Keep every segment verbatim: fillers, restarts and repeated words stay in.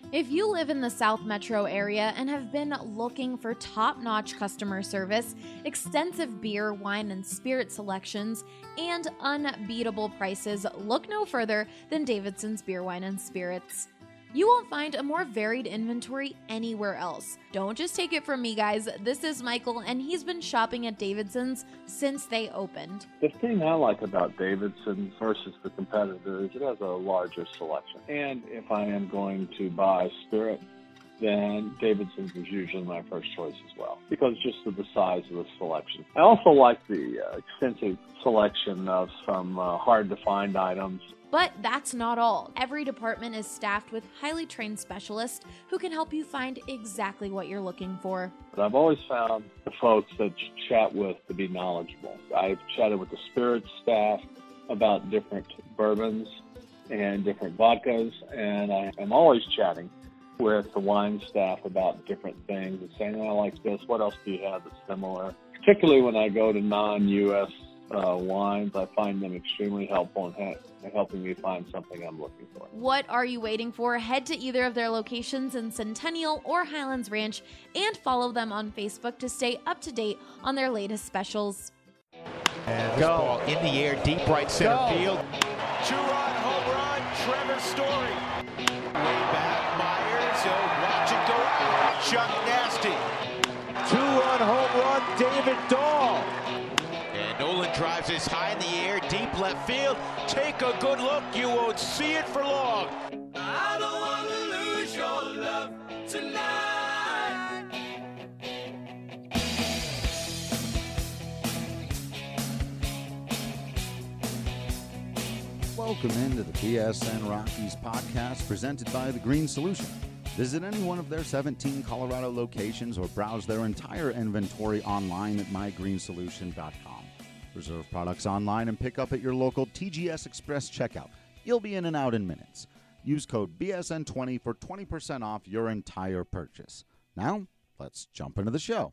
If you live in the South Metro area and have been looking for top-notch customer service, extensive beer, wine, and spirit selections, and unbeatable prices, look no further than Davidson's Beer, Wine, and Spirits. You won't find a more varied inventory anywhere else. Don't just take it from me, guys. This is Michael, and he's been shopping at Davidson's since they opened. The thing I like about Davidson's versus the competitor is it has a larger selection. And if I am going to buy spirit, then Davidson's is usually my first choice as well, because just of the size of the selection. I also like the uh, extensive selection of some uh, hard-to-find items. But that's not all. Every department is staffed with highly trained specialists who can help you find exactly what you're looking for. But I've always found the folks that you chat with to be knowledgeable. I've chatted with the spirits staff about different bourbons and different vodkas, and I am always chatting with the wine staff about different things and saying, oh, I like this, what else do you have that's similar? Particularly when I go to non-U S uh, wines, I find them extremely helpful in ha- helping me find something I'm looking for. What are you waiting for? Head to either of their locations in Centennial or Highlands Ranch and follow them on Facebook to stay up to date on their latest specials. And this ball in the air, deep right center Go. field. Two-run home run, Trevor Story. Way back, Myers, he'll watch it go out. Chuck Nasty. Two-run home run, David Dahl. And Nolan drives this high in the air, deep left field. Take a good look, you won't see it for long. I don't want to lose your love tonight. Welcome into the B S N Rockies podcast presented by The Green Solution. Visit any one of their seventeen Colorado locations or browse their entire inventory online at my green solution dot com. Reserve products online and pick up at your local T G S Express checkout. You'll be in and out in minutes. Use code B S N twenty for twenty percent off your entire purchase. Now, let's jump into the show.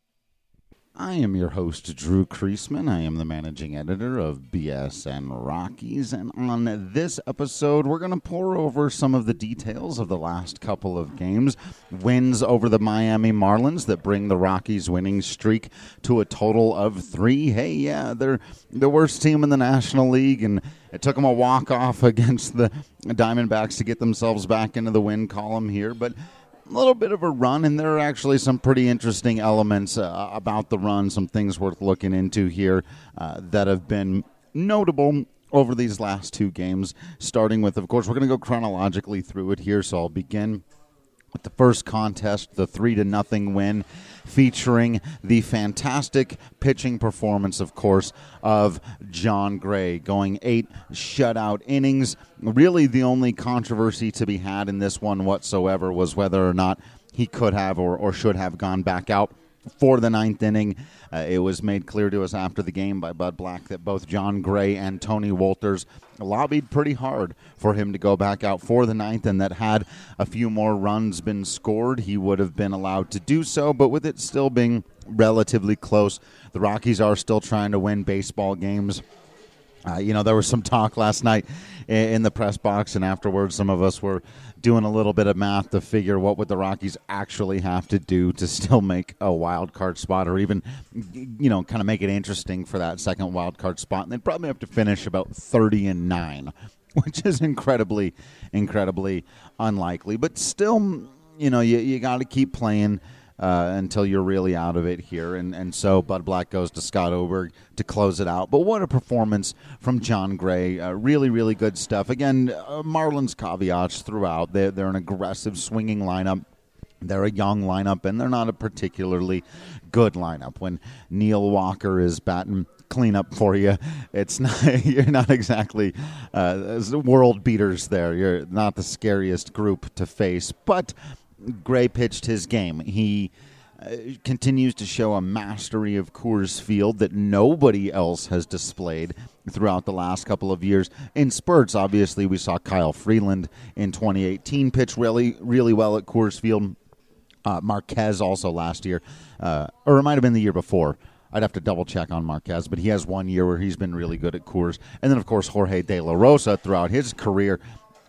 I am your host, Drew Kreisman. I am the managing editor of B S N Rockies, and on this episode, we're going to pour over some of the details of the last couple of games. Wins over the Miami Marlins that bring the Rockies' winning streak to a total of three. Hey, yeah, they're the worst team in the National League, and it took them a walk-off against the Diamondbacks to get themselves back into the win column here, but a little bit of a run, and there are actually some pretty interesting elements uh, about the run, some things worth looking into here uh, that have been notable over these last two games, starting with, of course, we're going to go chronologically through it here, so I'll begin with the first contest, the three to nothing win, featuring the fantastic pitching performance, of course, of Jon Gray, going eight shutout innings. Really, the only controversy to be had in this one whatsoever was whether or not he could have or, or should have gone back out for the ninth inning. Uh, it was made clear to us after the game by Bud Black that both Jon Gray and Tony Wolters lobbied pretty hard for him to go back out for the ninth, and that had a few more runs been scored, he would have been allowed to do so. But with it still being relatively close, the Rockies are still trying to win baseball games. Uh, you know, there was some talk last night in the press box, and afterwards some of us were doing a little bit of math to figure what would the Rockies actually have to do to still make a wild card spot, or even, you know, kind of make it interesting for that second wild card spot. And they'd probably have to finish about thirty and nine, which is incredibly, incredibly unlikely. But still, you know, you, you got to keep playing Uh, until you're really out of it here. And, and so Bud Black goes to Scott Oberg to close it out. But what a performance from Jon Gray. Uh, really, really good stuff. Again, uh, Marlins caveats throughout. They're, they're an aggressive swinging lineup. They're a young lineup, and they're not a particularly good lineup. When Neil Walker is batting cleanup for you, it's not, you're not exactly uh, world beaters there. You're not the scariest group to face. But Gray pitched his game. He uh, continues to show a mastery of Coors Field that nobody else has displayed throughout the last couple of years. In spurts, obviously, we saw Kyle Freeland in twenty eighteen pitch really, really well at Coors Field. Uh, Marquez also last year, uh, or it might have been the year before. I'd have to double-check on Marquez, but he has one year where he's been really good at Coors. And then, of course, Jorge De La Rosa throughout his career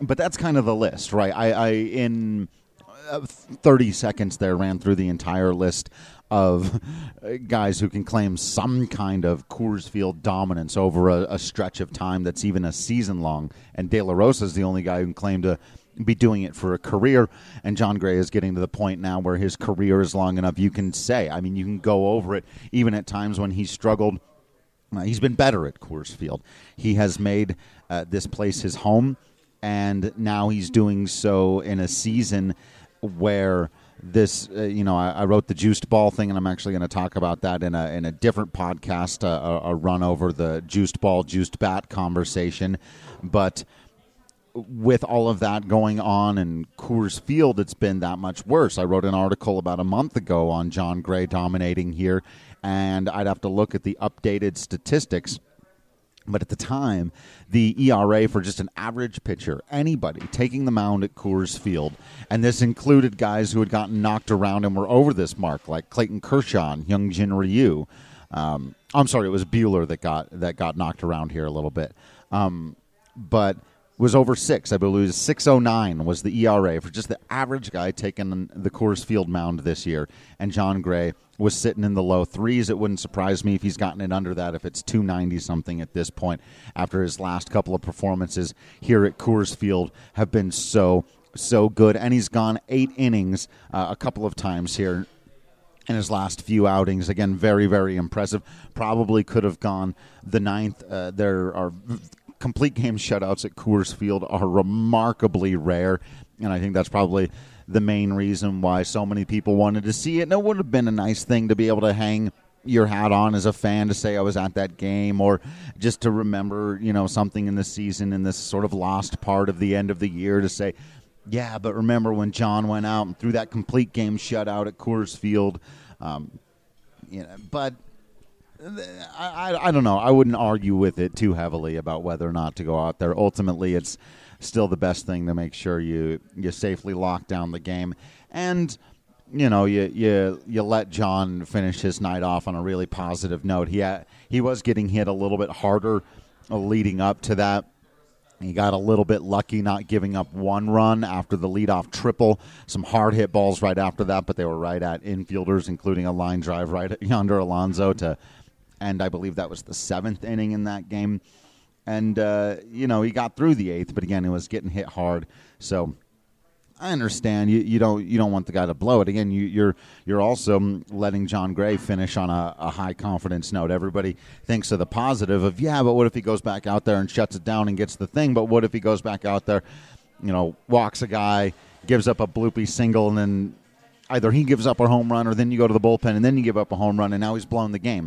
but that's kind of the list, right? I, I in thirty seconds there ran through the entire list of guys who can claim some kind of Coors Field dominance over a, a stretch of time that's even a season long. And De La Rosa is the only guy who can claim to be doing it for a career. And Jon Gray is getting to the point now where his career is long enough. You can say, I mean, you can go over it even at times when he struggled. Uh, he's been better at Coors Field. He has made uh, this place his home, and now he's doing so in a season where this, uh, you know, I, I wrote the juiced ball thing, and I'm actually going to talk about that in a in a different podcast, uh, a, a run over the juiced ball, juiced bat conversation. But with all of that going on in Coors Field, it's been that much worse. I wrote an article about a month ago on Jon Gray dominating here, and I'd have to look at the updated statistics. But at the time, the E R A for just an average pitcher, anybody taking the mound at Coors Field, and this included guys who had gotten knocked around and were over this mark, like Clayton Kershaw and Hyunjin Ryu. Um, I'm sorry, it was Buehler that got that got knocked around here a little bit. Um, but was over six. I believe it was six oh nine was the E R A for just the average guy taking the Coors Field mound this year. And Jon Gray was sitting in the low threes. It wouldn't surprise me if he's gotten it under that, if it's two ninety something at this point, after his last couple of performances here at Coors Field have been so, so good. And he's gone eight innings uh, a couple of times here in his last few outings. Again, very, very impressive. Probably could have gone the ninth. Uh, there are complete game shutouts at Coors Field are remarkably rare, and I think that's probably the main reason why so many people wanted to see it. And it would have been a nice thing to be able to hang your hat on as a fan, to say I was at that game, or just to remember, you know, something in the season, in this sort of lost part of the end of the year, to say, yeah, but remember when John went out and threw that complete game shutout at Coors Field. Um, you know, but I, I, I don't know. I wouldn't argue with it too heavily about whether or not to go out there. Ultimately, it's still the best thing to make sure you, you safely lock down the game. And, you know, you you you let John finish his night off on a really positive note. He had, he was getting hit a little bit harder leading up to that. He got a little bit lucky not giving up one run after the leadoff triple. Some hard hit balls right after that, but they were right at infielders, including a line drive right at Yonder Alonso to end, I believe that was the seventh inning in that game. And, uh, you know, he got through the eighth, but again, it was getting hit hard. So I understand you, you don't you don't want the guy to blow it. Again, you, you're you're also letting Jon Gray finish on a, a high confidence note. Everybody thinks of the positive of, yeah, but what if he goes back out there and shuts it down and gets the thing? But what if he goes back out there, you know, walks a guy, gives up a bloopy single, and then either he gives up a home run, or then you go to the bullpen and then you give up a home run, and now he's blown the game.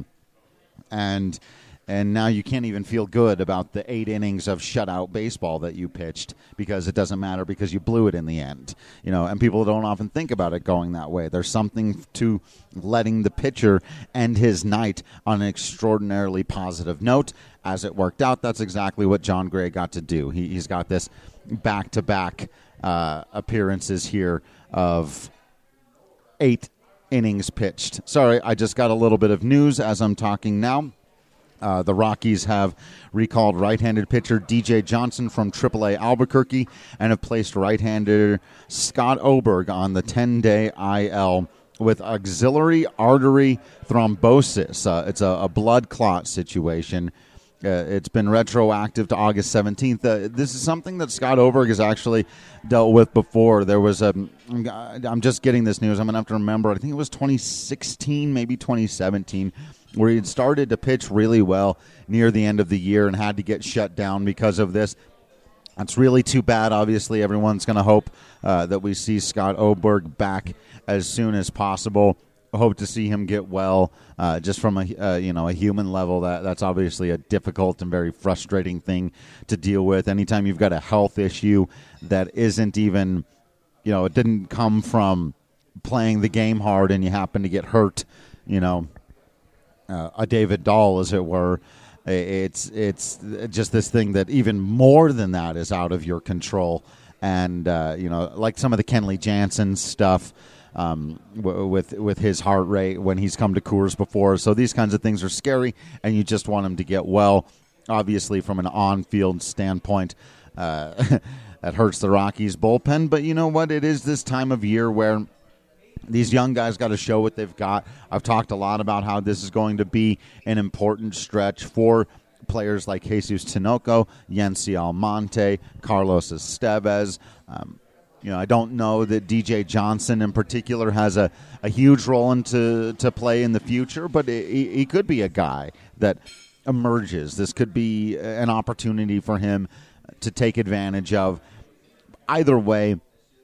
And and now you can't even feel good about the eight innings of shutout baseball that you pitched, because it doesn't matter because you blew it in the end. You know, and people don't often think about it going that way. There's something to letting the pitcher end his night on an extraordinarily positive note. As it worked out, that's exactly what Jon Gray got to do. He, he's got this back-to-back uh, appearances here of eight innings pitched. Sorry, I just got a little bit of news as I'm talking now. Uh, the Rockies have recalled right-handed pitcher D J Johnson from triple A Albuquerque and have placed right-hander Scott Oberg on the ten-day I L with axillary artery thrombosis. Uh, it's a, a blood clot situation. Uh, it's been retroactive to August seventeenth. Uh, this is something that Scott Oberg has actually dealt with before. There was a, I'm just getting this news. I'm going to have to remember. I think it was twenty sixteen, maybe twenty seventeen, where he had started to pitch really well near the end of the year and had to get shut down because of this. That's really too bad. Obviously, everyone's going to hope uh, that we see Scott Oberg back as soon as possible. Hope to see him get well. Uh, just from a uh, you know a human level, that that's obviously a difficult and very frustrating thing to deal with. Anytime you've got a health issue that isn't even, you know, it didn't come from playing the game hard and you happen to get hurt, you know, uh, a David Dahl, as it were. It's it's just this thing that even more than that is out of your control. And uh, you know, like some of the Kenley Jansen stuff. Um, w- with with his heart rate when he's come to Coors before. So these kinds of things are scary, and you just want him to get well. Obviously, from an on-field standpoint, uh, that hurts the Rockies bullpen. But you know what? It is this time of year where these young guys got to show what they've got. I've talked a lot about how this is going to be an important stretch for players like Jesus Tinoco, Yency Almonte, Carlos Estevez. Um, you know, I don't know that D J Johnson in particular has a, a huge role into to play in the future, but he, he could be a guy that emerges. This could be an opportunity for him to take advantage of. Either way,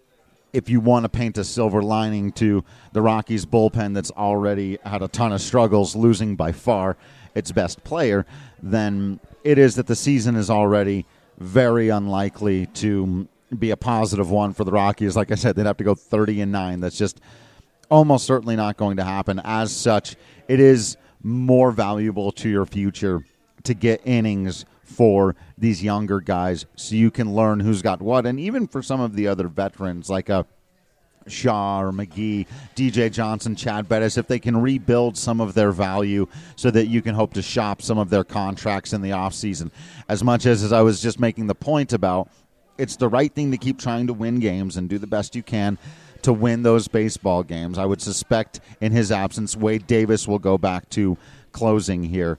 if you want to paint a silver lining to the Rockies bullpen that's already had a ton of struggles, losing by far its best player, then it is that the season is already very unlikely to be a positive one for the Rockies. Like I said, they'd have to go thirty and nine. That's just almost certainly not going to happen. As such, it is more valuable to your future to get innings for these younger guys so you can learn who's got what. And even for some of the other veterans like a Shaw or McGee, D J Johnson, Chad Bettis, if they can rebuild some of their value so that you can hope to shop some of their contracts in the offseason. As much as, as I was just making the point about, it's the right thing to keep trying to win games and do the best you can to win those baseball games. I would suspect in his absence, Wade Davis will go back to closing here.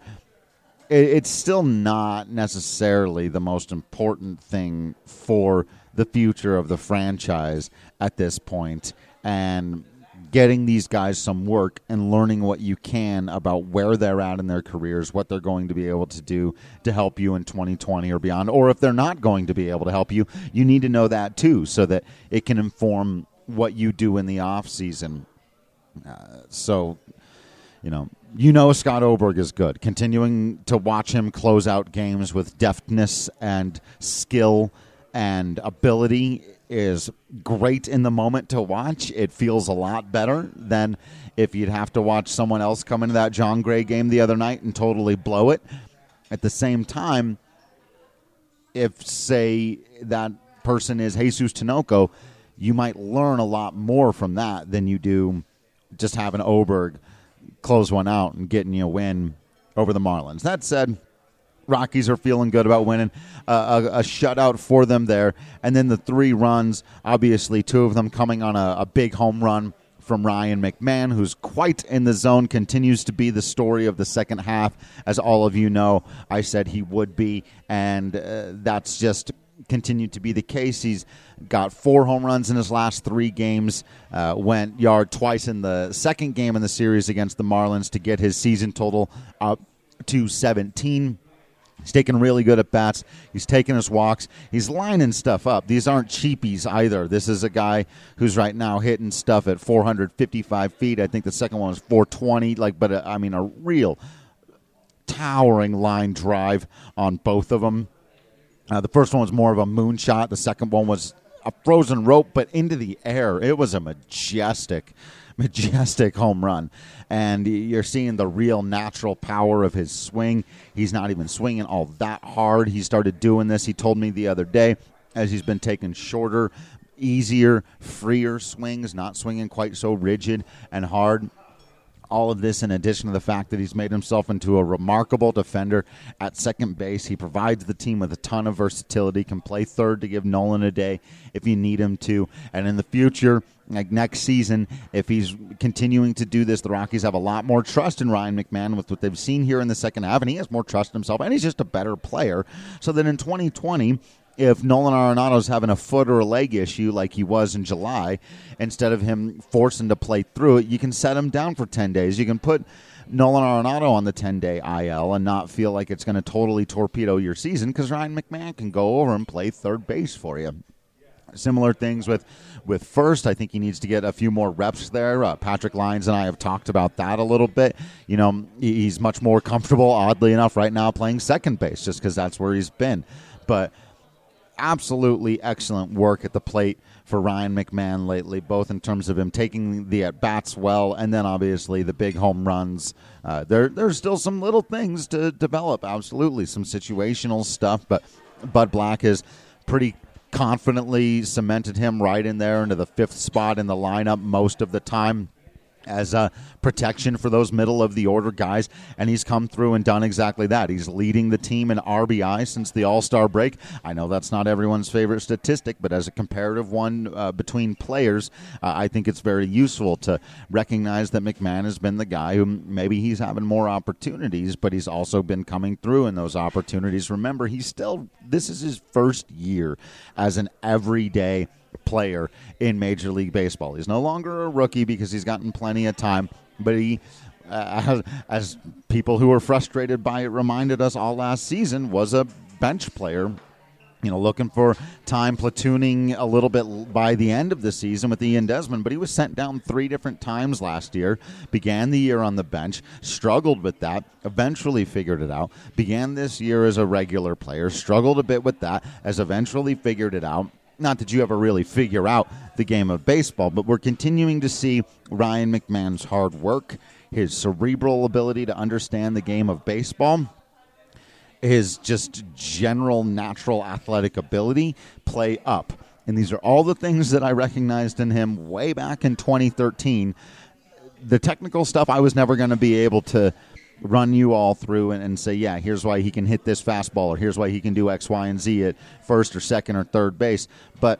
It's still not necessarily the most important thing for the future of the franchise at this point, and getting these guys some work and learning what you can about where they're at in their careers, what they're going to be able to do to help you in twenty twenty or beyond. Or if they're not going to be able to help you, you need to know that too so that it can inform what you do in the off season. Uh, so, you know, you know Scott Oberg is good. Continuing to watch him close out games with deftness and skill and ability is great in the moment to watch. It feels a lot better than if you'd have to watch someone else come into that John Gray game the other night and totally blow it. At the same time, if, say, that person is Jesus Tinoco, you might learn a lot more from that than you do just having Oberg close one out and getting you a win over the Marlins. That said, Rockies are feeling good about winning uh, a, a shutout for them there. And then the three runs, obviously two of them coming on a, a big home run from Ryan McMahon, who's quite in the zone, continues to be the story of the second half. As all of you know, I said he would be, and uh, that's just continued to be the case. He's got four home runs in his last three games, uh, went yard twice in the second game in the series against the Marlins to get his season total up to seventeen. He's taking really good at bats. He's taking his walks. He's lining stuff up. These aren't cheapies either. This is a guy who's right now hitting stuff at four hundred fifty-five feet. I think the second one was four twenty. Like, but a, I mean, a real towering line drive on both of them. Uh, the first one was more of a moonshot. The second one was a frozen rope, but into the air. It was a majestic, majestic home run. And you're seeing the real natural power of his swing. He's not even swinging all that hard. He started doing this, he told me the other day, as he's been taking shorter, easier, freer swings, not swinging quite so rigid and hard. All of this in addition to the fact that he's made himself into a remarkable defender at second base. He provides the team with a ton of versatility, can play third to give Nolan a day if you need him to. And in the future, like next season, if he's continuing to do this, the Rockies have a lot more trust in Ryan McMahon with what they've seen here in the second half, and he has more trust in himself, and he's just a better player. So that in twenty twenty, if Nolan Arenado's having a foot or a leg issue like he was in July, instead of him forcing to play through it, you can set him down for ten days. You can put Nolan Arenado on the ten-day I L and not feel like it's going to totally torpedo your season because Ryan McMahon can go over and play third base for you. Similar things with, with first. I think he needs to get a few more reps there. Uh, Patrick Lyons and I have talked about that a little bit. You know, he's much more comfortable, oddly enough, right now playing second base just because that's where he's been. But absolutely excellent work at the plate for Ryan McMahon lately, both in terms of him taking the at-bats well and then obviously the big home runs. Uh, there, there's still some little things to develop, absolutely, some situational stuff, but Bud Black has pretty confidently cemented him right in there into the fifth spot in the lineup most of the time. as a protection for those middle-of-the-order guys, and he's come through and done exactly that. He's leading the team in R B I since the All-Star break. I know that's not everyone's favorite statistic, but as a comparative one uh, between players, uh, I think it's very useful to recognize that McMahon has been the guy who maybe he's having more opportunities, but he's also been coming through in those opportunities. Remember, he's still, this is his first year as an everyday player in Major League Baseball. He's no longer a rookie because he's gotten plenty of time, but he, uh, as, as people who were frustrated by it reminded us all last season, was a bench player, you know, looking for time, platooning a little bit by the end of the season with Ian Desmond, but he was sent down three different times last year, began the year on the bench, struggled with that, eventually figured it out, began this year as a regular player, struggled a bit with that, has eventually figured it out. Not that you ever really figure out the game of baseball, but we're continuing to see Ryan McMahon's hard work, his cerebral ability to understand the game of baseball, his just general natural athletic ability play up. And these are all the things that I recognized in him way back in twenty thirteen. The technical stuff I was never going to be able to run you all through and, and say, yeah, here's why he can hit this fastball, or here's why he can do X, Y, and Z at first or second or third base. But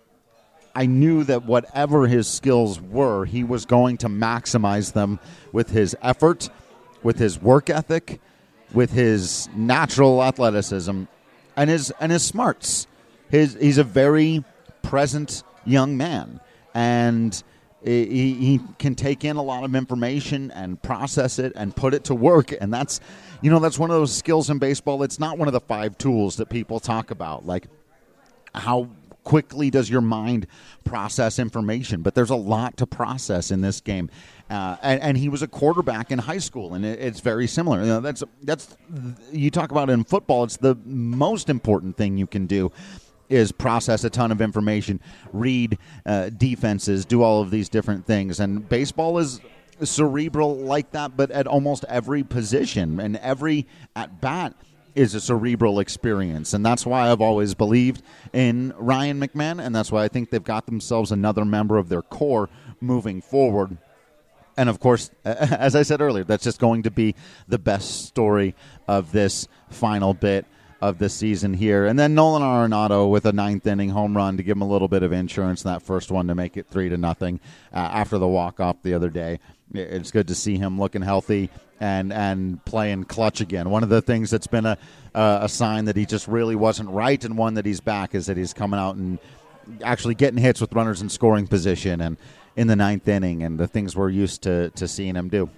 I knew that whatever his skills were, he was going to maximize them with his effort, with his work ethic, with his natural athleticism, and his and his smarts. His he's a very present young man, and He, he can take in a lot of information and process it and put it to work. And that's, you know, that's one of those skills in baseball. It's not one of the five tools that people talk about, like how quickly does your mind process information. But there's a lot to process in this game. Uh, and, and he was a quarterback in high school, and it, it's very similar. You know, that's that's you talk about in football. It's the most important thing you can do, is process a ton of information, read uh, defenses, do all of these different things. And baseball is cerebral like that, but at almost every position and every at-bat is a cerebral experience. And that's why I've always believed in Ryan McMahon, and that's why I think they've got themselves another member of their core moving forward. And, of course, as I said earlier, that's just going to be the best story of this final bit of the season here. And then Nolan Arenado with a ninth inning home run to give him a little bit of insurance in that first one to make it three to nothing uh, after the walk-off the other day. It's good to see him looking healthy and and playing clutch again. One of the things that's been a uh, a sign that he just really wasn't right, and one that he's back, is that he's coming out and actually getting hits with runners in scoring position and in the ninth inning, and the things we're used to, to seeing him do.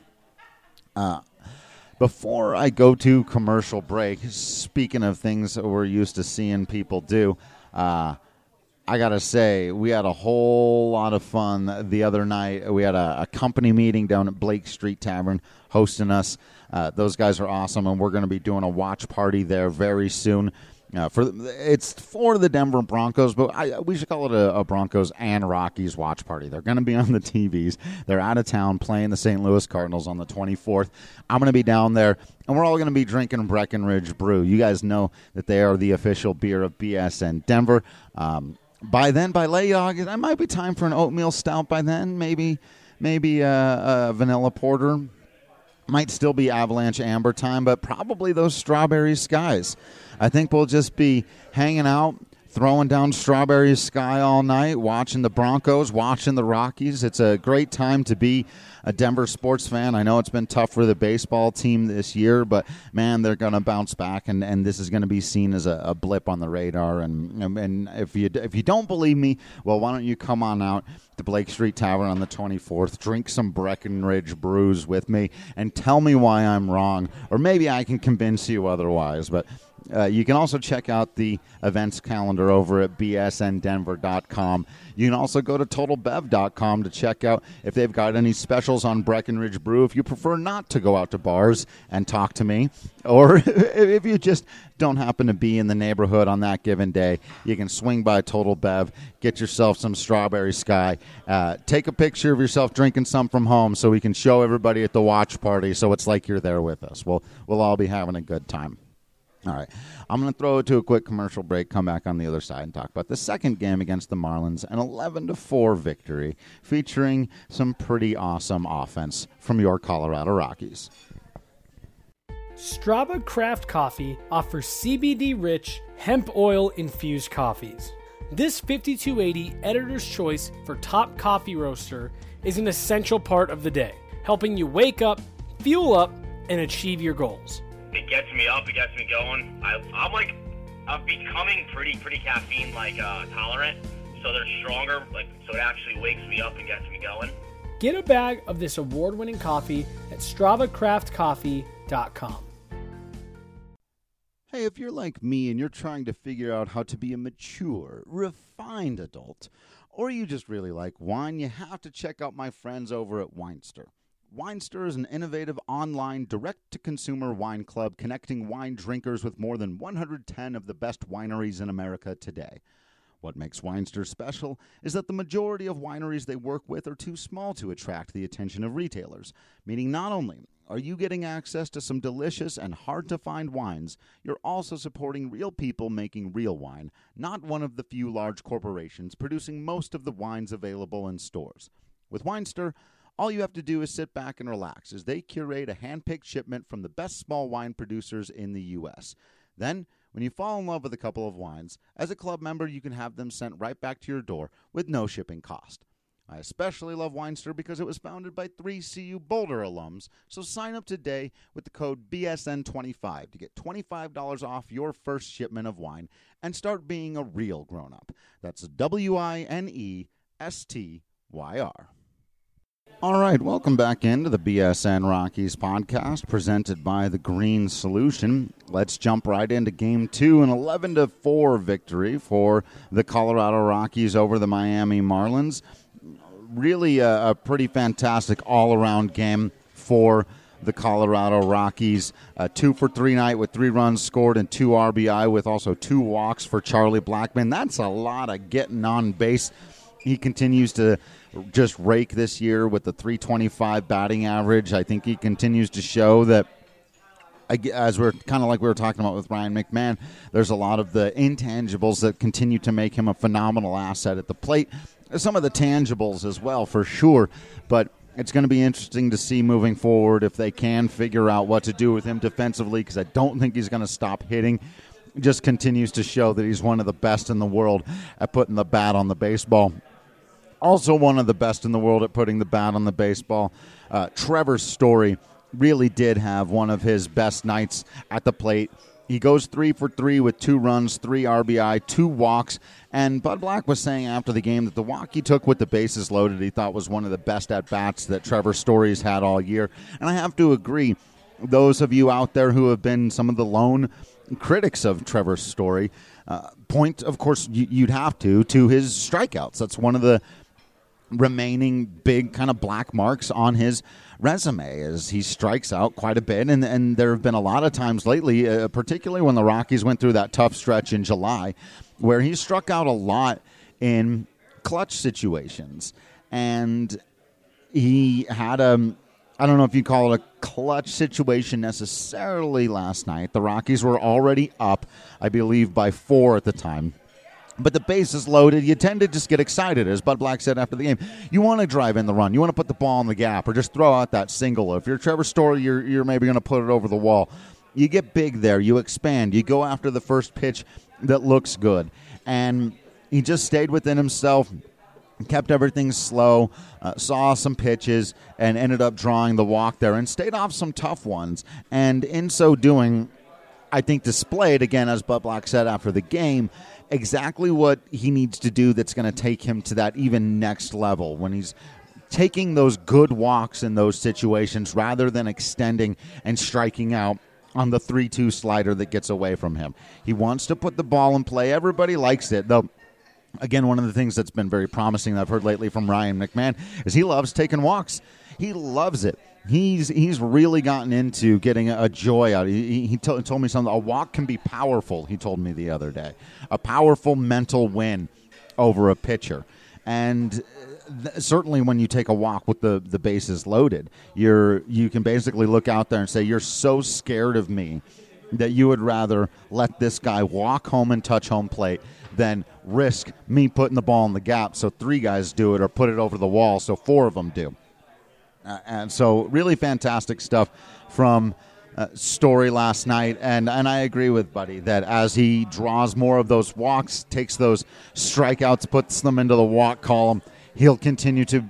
Uh, before I go to commercial break, speaking of things that we're used to seeing people do, uh, I got to say, we had a whole lot of fun the other night. We had a, a company meeting down at Blake Street Tavern hosting us. Uh, those guys are awesome, and we're going to be doing a watch party there very soon. Uh, for it's for the Denver Broncos, but I, we should call it a, a Broncos and Rockies watch party. They're going to be on the T Vs. They're out of town playing the Saint Louis Cardinals on the twenty-fourth. I'm going to be down there, and we're all going to be drinking Breckenridge Brew. You guys know that they are the official beer of B S N Denver. Um, by then, by late August, it might be time for an oatmeal stout by then. Maybe, maybe a, a vanilla porter. Might still be Avalanche Amber time, but probably those Strawberry Skies. I think we'll just be hanging out, throwing down Strawberry Sky all night, watching the Broncos, watching the Rockies. It's a great time to be a Denver sports fan. I know it's been tough for the baseball team this year, but, man, they're going to bounce back, and, and this is going to be seen as a, a blip on the radar. And, and if you if you don't believe me, well, why don't you come on out to Blake Street Tavern on the twenty-fourth, drink some Breckenridge brews with me, and tell me why I'm wrong, or maybe I can convince you otherwise. But Uh, you can also check out the events calendar over at b s n denver dot com. You can also go to total bev dot com to check out if they've got any specials on Breckenridge Brew if you prefer not to go out to bars and talk to me, or if you just don't happen to be in the neighborhood on that given day. You can swing by Total Bev, get yourself some Strawberry Sky, uh, take a picture of yourself drinking some from home so we can show everybody at the watch party so it's like you're there with us. We'll, we'll all be having a good time. All right, I'm going to throw it to a quick commercial break, come back on the other side, and talk about the second game against the Marlins, an eleven to four victory featuring some pretty awesome offense from your Colorado Rockies. Strava Craft Coffee offers C B D-rich, hemp oil-infused coffees. This fifty-two eighty Editor's Choice for Top Coffee Roaster is an essential part of the day, helping you wake up, fuel up, and achieve your goals. It gets me up, it gets me going. I, I'm like, I'm becoming pretty, pretty caffeine like uh, tolerant, so they're stronger, like so it actually wakes me up and gets me going. Get a bag of this award-winning coffee at strava craft coffee dot com. Hey, if you're like me and you're trying to figure out how to be a mature, refined adult, or you just really like wine, you have to check out my friends over at Winester. Winester is an innovative online direct-to-consumer wine club connecting wine drinkers with more than one hundred ten of the best wineries in America today. What makes Winester special is that the majority of wineries they work with are too small to attract the attention of retailers, meaning not only are you getting access to some delicious and hard-to-find wines, you're also supporting real people making real wine, not one of the few large corporations producing most of the wines available in stores. With Winester, all you have to do is sit back and relax as they curate a hand-picked shipment from the best small wine producers in the U S. Then, when you fall in love with a couple of wines, as a club member, you can have them sent right back to your door with no shipping cost. I especially love Winester because it was founded by three C U Boulder alums, so sign up today with the code B S N twenty-five to get twenty-five dollars off your first shipment of wine and start being a real grown-up. That's W I N E S T Y R. All right, welcome back into the B S N Rockies podcast presented by The Green Solution. Let's jump right into Game two, an eleven to four victory for the Colorado Rockies over the Miami Marlins. Really a, a pretty fantastic all-around game for the Colorado Rockies. A two for three night with three runs scored and two R B I with also two walks for Charlie Blackmon. That's a lot of getting on base. He continues to just rake this year with the three twenty-five batting average. I think he continues to show that, as we're kind of like we were talking about with Ryan McMahon, there's a lot of the intangibles that continue to make him a phenomenal asset at the plate. Some of the tangibles as well, for sure, but it's going to be interesting to see moving forward if they can figure out what to do with him defensively, because I don't think he's going to stop hitting. Just continues to show that he's one of the best in the world at putting the bat on the baseball. Also one of the best in the world at putting the bat on the baseball. Uh, Trevor Story really did have one of his best nights at the plate. He goes three for three with two runs, three R B I, two walks. And Bud Black was saying after the game that the walk he took with the bases loaded he thought was one of the best at-bats that Trevor Story's had all year. And I have to agree, those of you out there who have been some of the lone critics of Trevor Story, uh, point, of course, you'd have to, to his strikeouts. That's one of the remaining big kind of black marks on his resume, as he strikes out quite a bit, and and there have been a lot of times lately, uh, particularly when the Rockies went through that tough stretch in July, where he struck out a lot in clutch situations, and he had a, I don't know if you call it a clutch situation necessarily last night. The Rockies were already up, I believe, by four at the time. But the base is loaded. You tend to just get excited, as Bud Black said after the game. You want to drive in the run. You want to put the ball in the gap or just throw out that single. If you're Trevor Story, you're, you're maybe going to put it over the wall. You get big there. You expand. You go after the first pitch that looks good. And he just stayed within himself, kept everything slow, uh, saw some pitches, and ended up drawing the walk there and stayed off some tough ones. And in so doing, I think displayed, again, as Bud Black said after the game, exactly what he needs to do that's going to take him to that even next level when he's taking those good walks in those situations rather than extending and striking out on the three two slider that gets away from him. He wants to put the ball in play. Everybody likes it, though. Again, one of the things that's been very promising that I've heard lately from Ryan McMahon is he loves taking walks. He loves it. He's he's really gotten into getting a joy out. He, he t- told me something. A walk can be powerful, he told me the other day. A powerful mental win over a pitcher. And th- certainly when you take a walk with the, the bases loaded, you're you can basically look out there and say, you're so scared of me that you would rather let this guy walk home and touch home plate than risk me putting the ball in the gap so three guys do it or put it over the wall so four of them do. Uh, and so really fantastic stuff from uh, Story last night. And, and I agree with Buddy that as he draws more of those walks, takes those strikeouts, puts them into the walk column, he'll continue to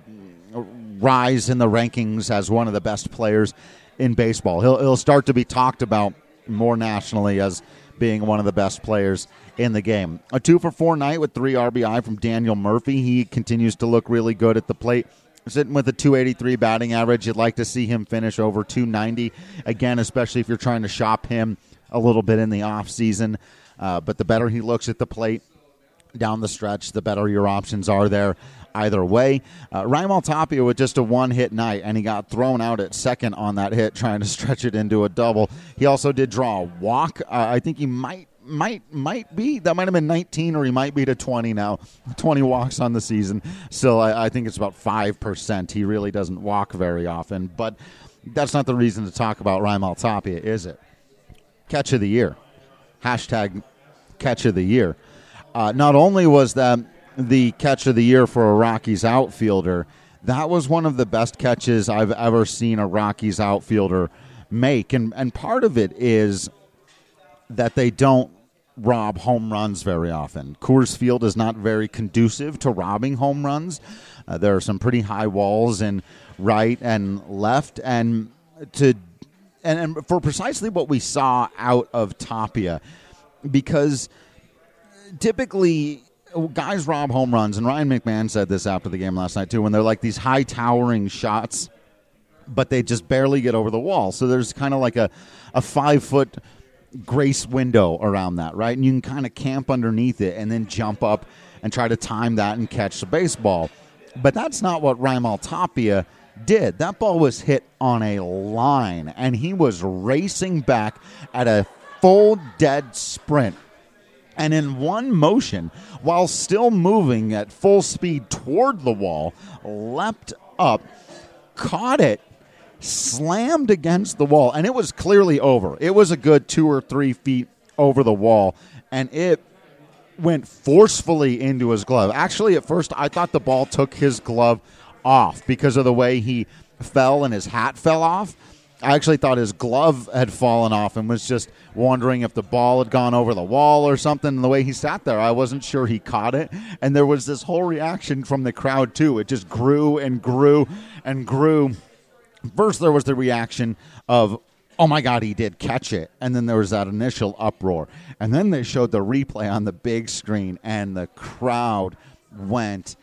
rise in the rankings as one of the best players in baseball. He'll, he'll start to be talked about more nationally as being one of the best players in the game. A two for four night with three R B I from Daniel Murphy. He continues to look really good at the plate. Sitting with a two eighty-three batting average. You'd like to see him finish over two ninety. Again, especially if you're trying to shop him a little bit in the offseason. Uh, but the better he looks at the plate down the stretch, the better your options are there either way. Uh, Raimel Tapia with just a one-hit night, and he got thrown out at second on that hit trying to stretch it into a double. He also did draw a walk. Uh, I think he might might might be. That might have been nineteen, or he might be to twenty now. twenty walks on the season. Still, I, I think it's about five percent. He really doesn't walk very often, but that's not the reason to talk about Raimel Tapia, is it? Catch of the year. Hashtag catch of the year. Uh, not only was that the catch of the year for a Rockies outfielder, that was one of the best catches I've ever seen a Rockies outfielder make. And, and part of it is that they don't rob home runs very often. Coors Field is not very conducive to robbing home runs. Uh, there are some pretty high walls in right and left. And to and, and for precisely what we saw out of Tapia, because typically guys rob home runs, and Ryan McMahon said this after the game last night too, when they're like these high towering shots, but they just barely get over the wall. So there's kind of like a, a five foot grace window around that, right? And you can kind of camp underneath it and then jump up and try to time that and catch the baseball. But that's not what Raimel Tapia did. That ball was hit on a line, and he was racing back at a full dead sprint. And in one motion, while still moving at full speed toward the wall, leapt up, caught it, slammed against the wall, and it was clearly over. It was a good two or three feet over the wall, and it went forcefully into his glove. Actually, at first, I thought the ball took his glove off because of the way he fell and his hat fell off. I actually thought his glove had fallen off and was just wondering if the ball had gone over the wall or something. And the way he sat there, I wasn't sure he caught it. And there was this whole reaction from the crowd, too. It just grew and grew and grew. First, there was the reaction of, oh, my God, he did catch it. And then there was that initial uproar. And then they showed the replay on the big screen, and the crowd went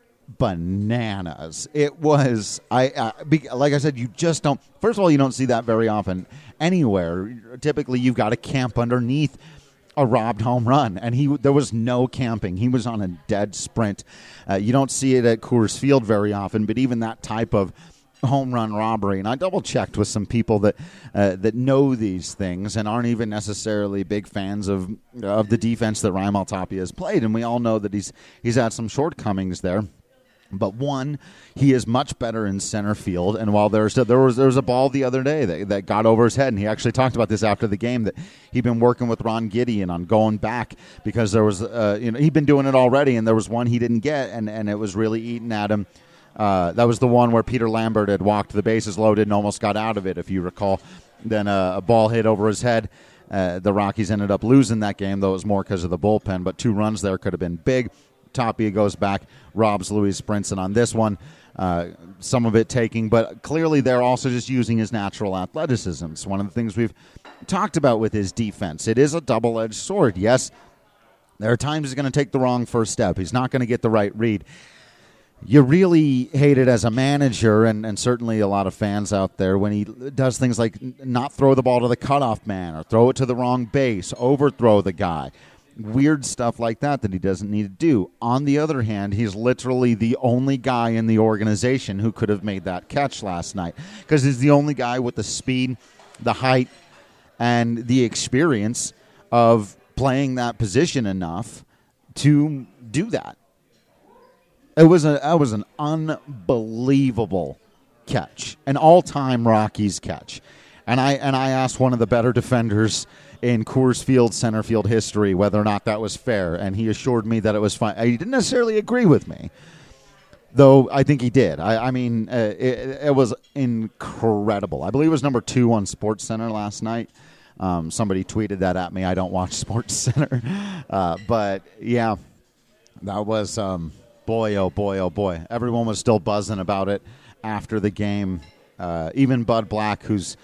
bananas. It was, I uh, be, like I said, you just don't, first of all, you don't see that very often anywhere. Typically, you've got to camp underneath a robbed home run, and he there was no camping. He was on a dead sprint. Uh, you don't see it at Coors Field very often, but even that type of home run robbery, and I double-checked with some people that uh, that know these things and aren't even necessarily big fans of of the defense that Raimel Tapia has played, and we all know that he's he's had some shortcomings there. But one, he is much better in center field, and while there's there was there was a ball the other day that, that got over his head, and he actually talked about this after the game, that he'd been working with Ron Gideon on going back because there was uh, you know he'd been doing it already, and there was one he didn't get, and, and it was really eating at him. Uh, that was the one where Peter Lambert had walked the bases loaded and almost got out of it, if you recall. Then uh, a ball hit over his head. Uh, the Rockies ended up losing that game, though it was more because of the bullpen, but two runs there could have been big. Tapia goes back, robs Luis Brinson on this one, uh, some of it taking, but clearly they're also just using his natural athleticism. It's one of the things we've talked about with his defense. It is a double-edged sword. Yes, there are times he's going to take the wrong first step. He's not going to get the right read. You really hate it as a manager, and, and certainly a lot of fans out there, when he does things like not throw the ball to the cutoff man or throw it to the wrong base, overthrow the guy. Weird stuff like that that he doesn't need to do. On the other hand, he's literally the only guy in the organization who could have made that catch last night, because he's the only guy with the speed, the height, and the experience of playing that position enough to do that. It was a that was an unbelievable catch, an all-time Rockies catch. And I and I asked one of the better defenders in Coors Field center field history, whether or not that was fair, and he assured me that it was fine. He didn't necessarily agree with me, though I think he did. I, I mean, uh, it, it was incredible. I believe it was number two on SportsCenter last night. Um, somebody tweeted that at me. I don't watch SportsCenter. Uh, but, yeah, that was, um, boy, oh, boy, oh, boy. Everyone was still buzzing about it after the game. Uh, even Bud Black, who's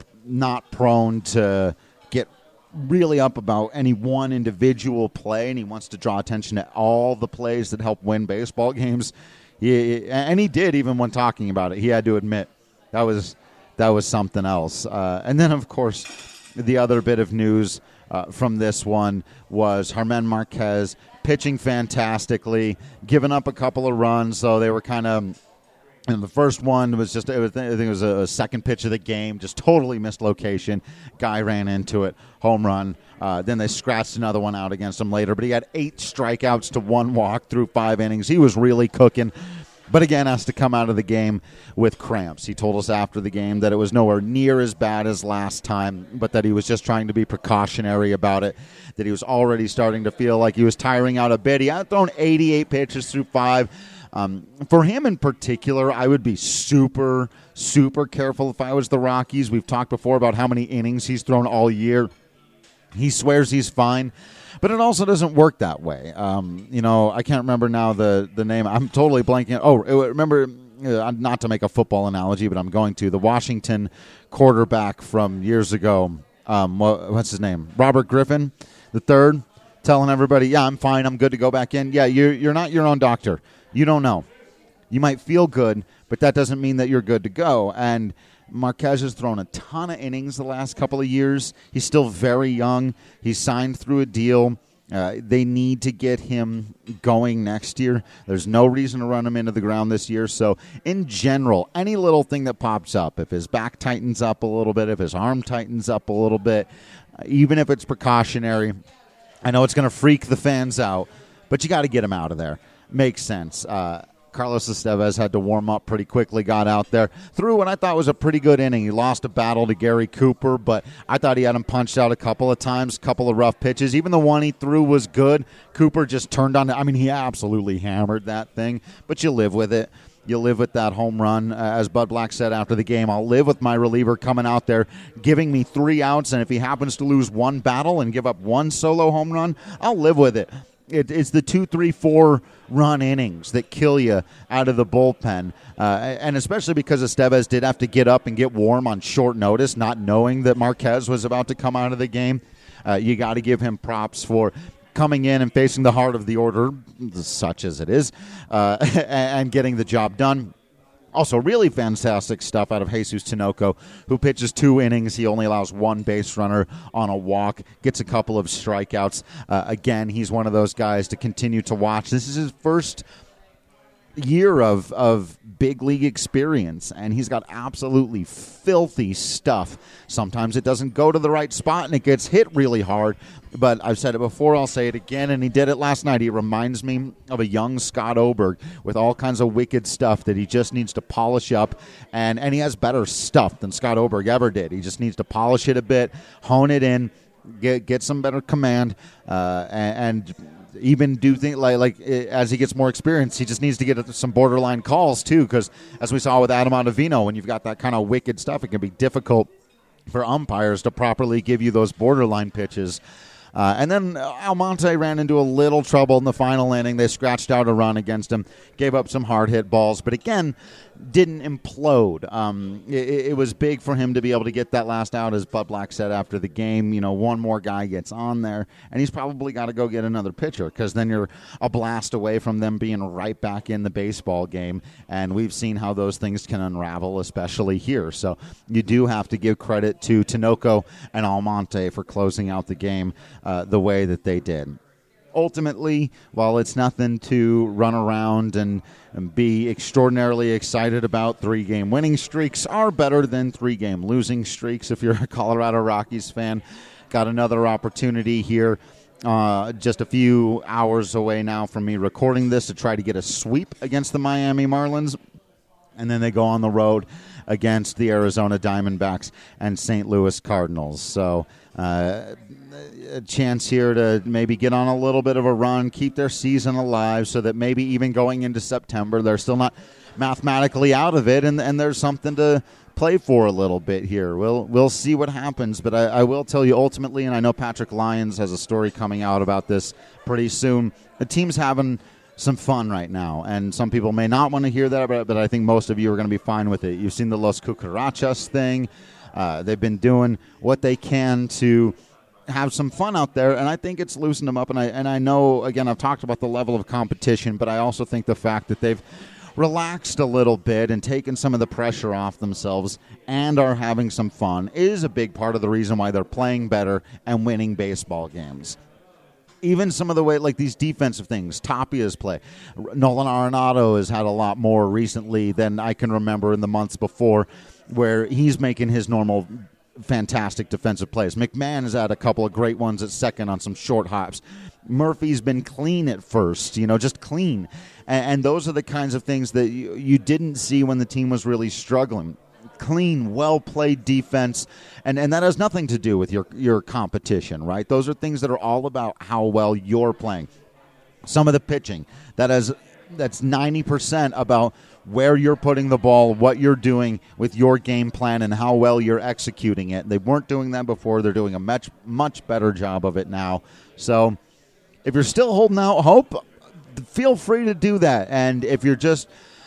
not prone to get really up about any one individual play, and he wants to draw attention to all the plays that help win baseball games. He, and he did, even when talking about it. He had to admit that was that was something else. Uh, and then, of course, the other bit of news uh, from this one was Germán Marquez pitching fantastically, giving up a couple of runs, so they were kind of. And the first one was just, it was, I think it was a second pitch of the game, just totally missed location. Guy ran into it, home run. Uh, then they scratched another one out against him later. But he had eight strikeouts to one walk through five innings. He was really cooking. But again, has to come out of the game with cramps. He told us after the game that it was nowhere near as bad as last time, but that he was just trying to be precautionary about it, that he was already starting to feel like he was tiring out a bit. He had thrown eighty-eight pitches through five. Um, for him in particular, I would be super, super careful if I was the Rockies. We've talked before about how many innings he's thrown all year. He swears he's fine, but it also doesn't work that way. Um, you know, I can't remember now the, the name. I'm totally blanking. Oh, remember, uh, not to make a football analogy, but I'm going to. The Washington quarterback from years ago, um, what, what's his name? Robert Griffin, the third, telling everybody, yeah, I'm fine, I'm good to go back in. Yeah, you're, you're not your own doctor. You don't know. You might feel good, but that doesn't mean that you're good to go. And Marquez has thrown a ton of innings the last couple of years. He's still very young. He's signed through a deal. Uh, they need to get him going next year. There's no reason to run him into the ground this year. So, in general, any little thing that pops up, if his back tightens up a little bit, if his arm tightens up a little bit, uh, even if it's precautionary, I know it's going to freak the fans out, but you got to get him out of there. Makes sense. Uh, Carlos Estevez had to warm up pretty quickly, got out there, threw what I thought was a pretty good inning. He lost a battle to Gary Cooper, but I thought he had him punched out a couple of times, a couple of rough pitches. Even the one he threw was good. Cooper just turned on. I mean, he absolutely hammered that thing, but you live with it. You live with that home run. Uh, as Bud Black said after the game, I'll live with my reliever coming out there, giving me three outs, and if he happens to lose one battle and give up one solo home run, I'll live with it. It, it's the two, three, four run innings that kill you out of the bullpen, uh, and especially because Estevez did have to get up and get warm on short notice, not knowing that Marquez was about to come out of the game. Uh, you got to give him props for coming in and facing the heart of the order, such as it is, uh, and getting the job done. Also, really fantastic stuff out of Jesus Tinoco, who pitches two innings. He only allows one base runner on a walk, gets a couple of strikeouts. Uh, again, he's one of those guys to continue to watch. This is his first year of of big league experience, and he's got absolutely filthy stuff. Sometimes it doesn't go to the right spot, and it gets hit really hard. But I've said it before, I'll say it again, and he did it last night. He reminds me of a young Scott Oberg with all kinds of wicked stuff that he just needs to polish up, and, and he has better stuff than Scott Oberg ever did. He just needs to polish it a bit, hone it in, get get some better command, uh, and, and even do things like, like as he gets more experience, he just needs to get some borderline calls too, because as we saw with Adam Ottavino, when you've got that kind of wicked stuff, it can be difficult for umpires to properly give you those borderline pitches. Uh, and then Almonte ran into a little trouble in the final inning. They scratched out a run against him, gave up some hard-hit balls, but again, didn't implode. Um, it, it was big for him to be able to get that last out, as Bud Black said after the game. You know, one more guy gets on there, and he's probably got to go get another pitcher, because then you're a blast away from them being right back in the baseball game, and we've seen how those things can unravel, especially here. So you do have to give credit to Tinoco and Almonte for closing out the game uh, the way that they did. Ultimately, while it's nothing to run around and, and be extraordinarily excited about, three-game winning streaks are better than three-game losing streaks if you're a Colorado Rockies fan. Got another opportunity here uh, just a few hours away now from me recording this to try to get a sweep against the Miami Marlins. And then they go on the road against the Arizona Diamondbacks and Saint Louis Cardinals. So uh, a chance here to maybe get on a little bit of a run, keep their season alive so that maybe even going into September, they're still not mathematically out of it, and, and there's something to play for a little bit here. We'll we'll see what happens, but I, I will tell you ultimately, and I know Patrick Lyons has a story coming out about this pretty soon, the team's having some fun right now, and some people may not want to hear that, but, but I think most of you are going to be fine with it. You've seen the Los Cucarachas thing. Uh, they've been doing what they can to have some fun out there, and I think it's loosened them up, and I, and I know, again, I've talked about the level of competition, but I also think the fact that they've relaxed a little bit and taken some of the pressure off themselves and are having some fun is a big part of the reason why they're playing better and winning baseball games. Even some of the way, like these defensive things, Tapia's play. Nolan Arenado has had a lot more recently than I can remember in the months before, where he's making his normal fantastic defensive plays. McMahon has had a couple of great ones at second on some short hops. Murphy's been clean at first, you know, just clean. And, and those are the kinds of things that you, you didn't see when the team was really struggling. Clean, well-played defense, and, and that has nothing to do with your, your competition, right? Those are things that are all about how well you're playing. Some of the pitching, that has, that's ninety percent about where you're putting the ball, what you're doing with your game plan, and how well you're executing it. They weren't doing that before. They're doing a much, much better job of it now. So if you're still holding out hope, feel free to do that. And if you're just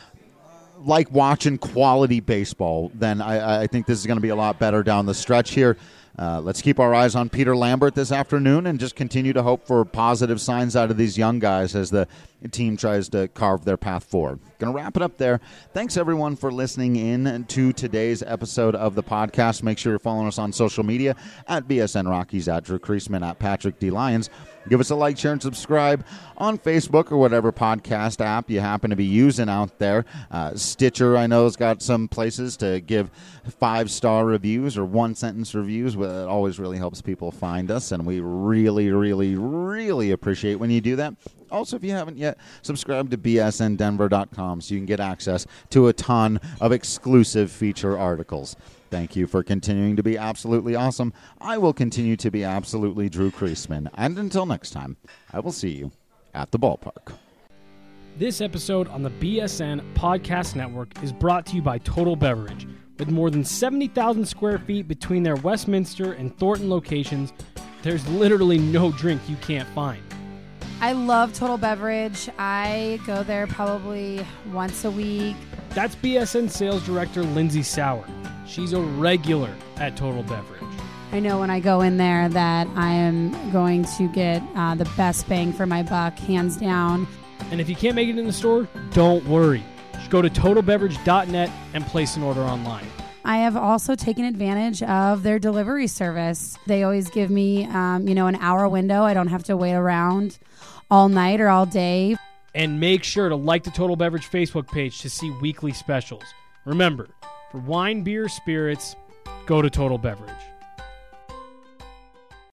like watching quality baseball, then I, I think this is going to be a lot better down the stretch here. Uh, let's keep our eyes on Peter Lambert this afternoon and just continue to hope for positive signs out of these young guys as the team tries to carve their path forward. Going to wrap it up there. Thanks, everyone, for listening in to today's episode of the podcast. Make sure you're following us on social media at B S N Rockies, at Drew Creasman, at Patrick D. Lyons. Give us a like, share, and subscribe on Facebook or whatever podcast app you happen to be using out there. Uh, Stitcher, I know, has got some places to give five-star reviews or one-sentence reviews. It always really helps people find us, and we really, really, really appreciate when you do that. Also, if you haven't yet, subscribe to B S N Denver dot com so you can get access to a ton of exclusive feature articles. Thank you for continuing to be absolutely awesome. I will continue to be absolutely Drew Creasman. And until next time, I will see you at the ballpark. This episode on the B S N Podcast Network is brought to you by Total Beverage. With more than seventy thousand square feet between their Westminster and Thornton locations, there's literally no drink you can't find. I love Total Beverage. I go there probably once a week. That's B S N Sales Director Lindsay Sauer. She's a regular at Total Beverage. I know when I go in there that I am going to get uh, the best bang for my buck, hands down. And if you can't make it in the store, don't worry. Just go to total beverage dot net and place an order online. I have also taken advantage of their delivery service. They always give me, um, you know, an hour window. I don't have to wait around all night or all day. And make sure to like the Total Beverage Facebook page to see weekly specials. Remember, for wine, beer, spirits, go to Total Beverage.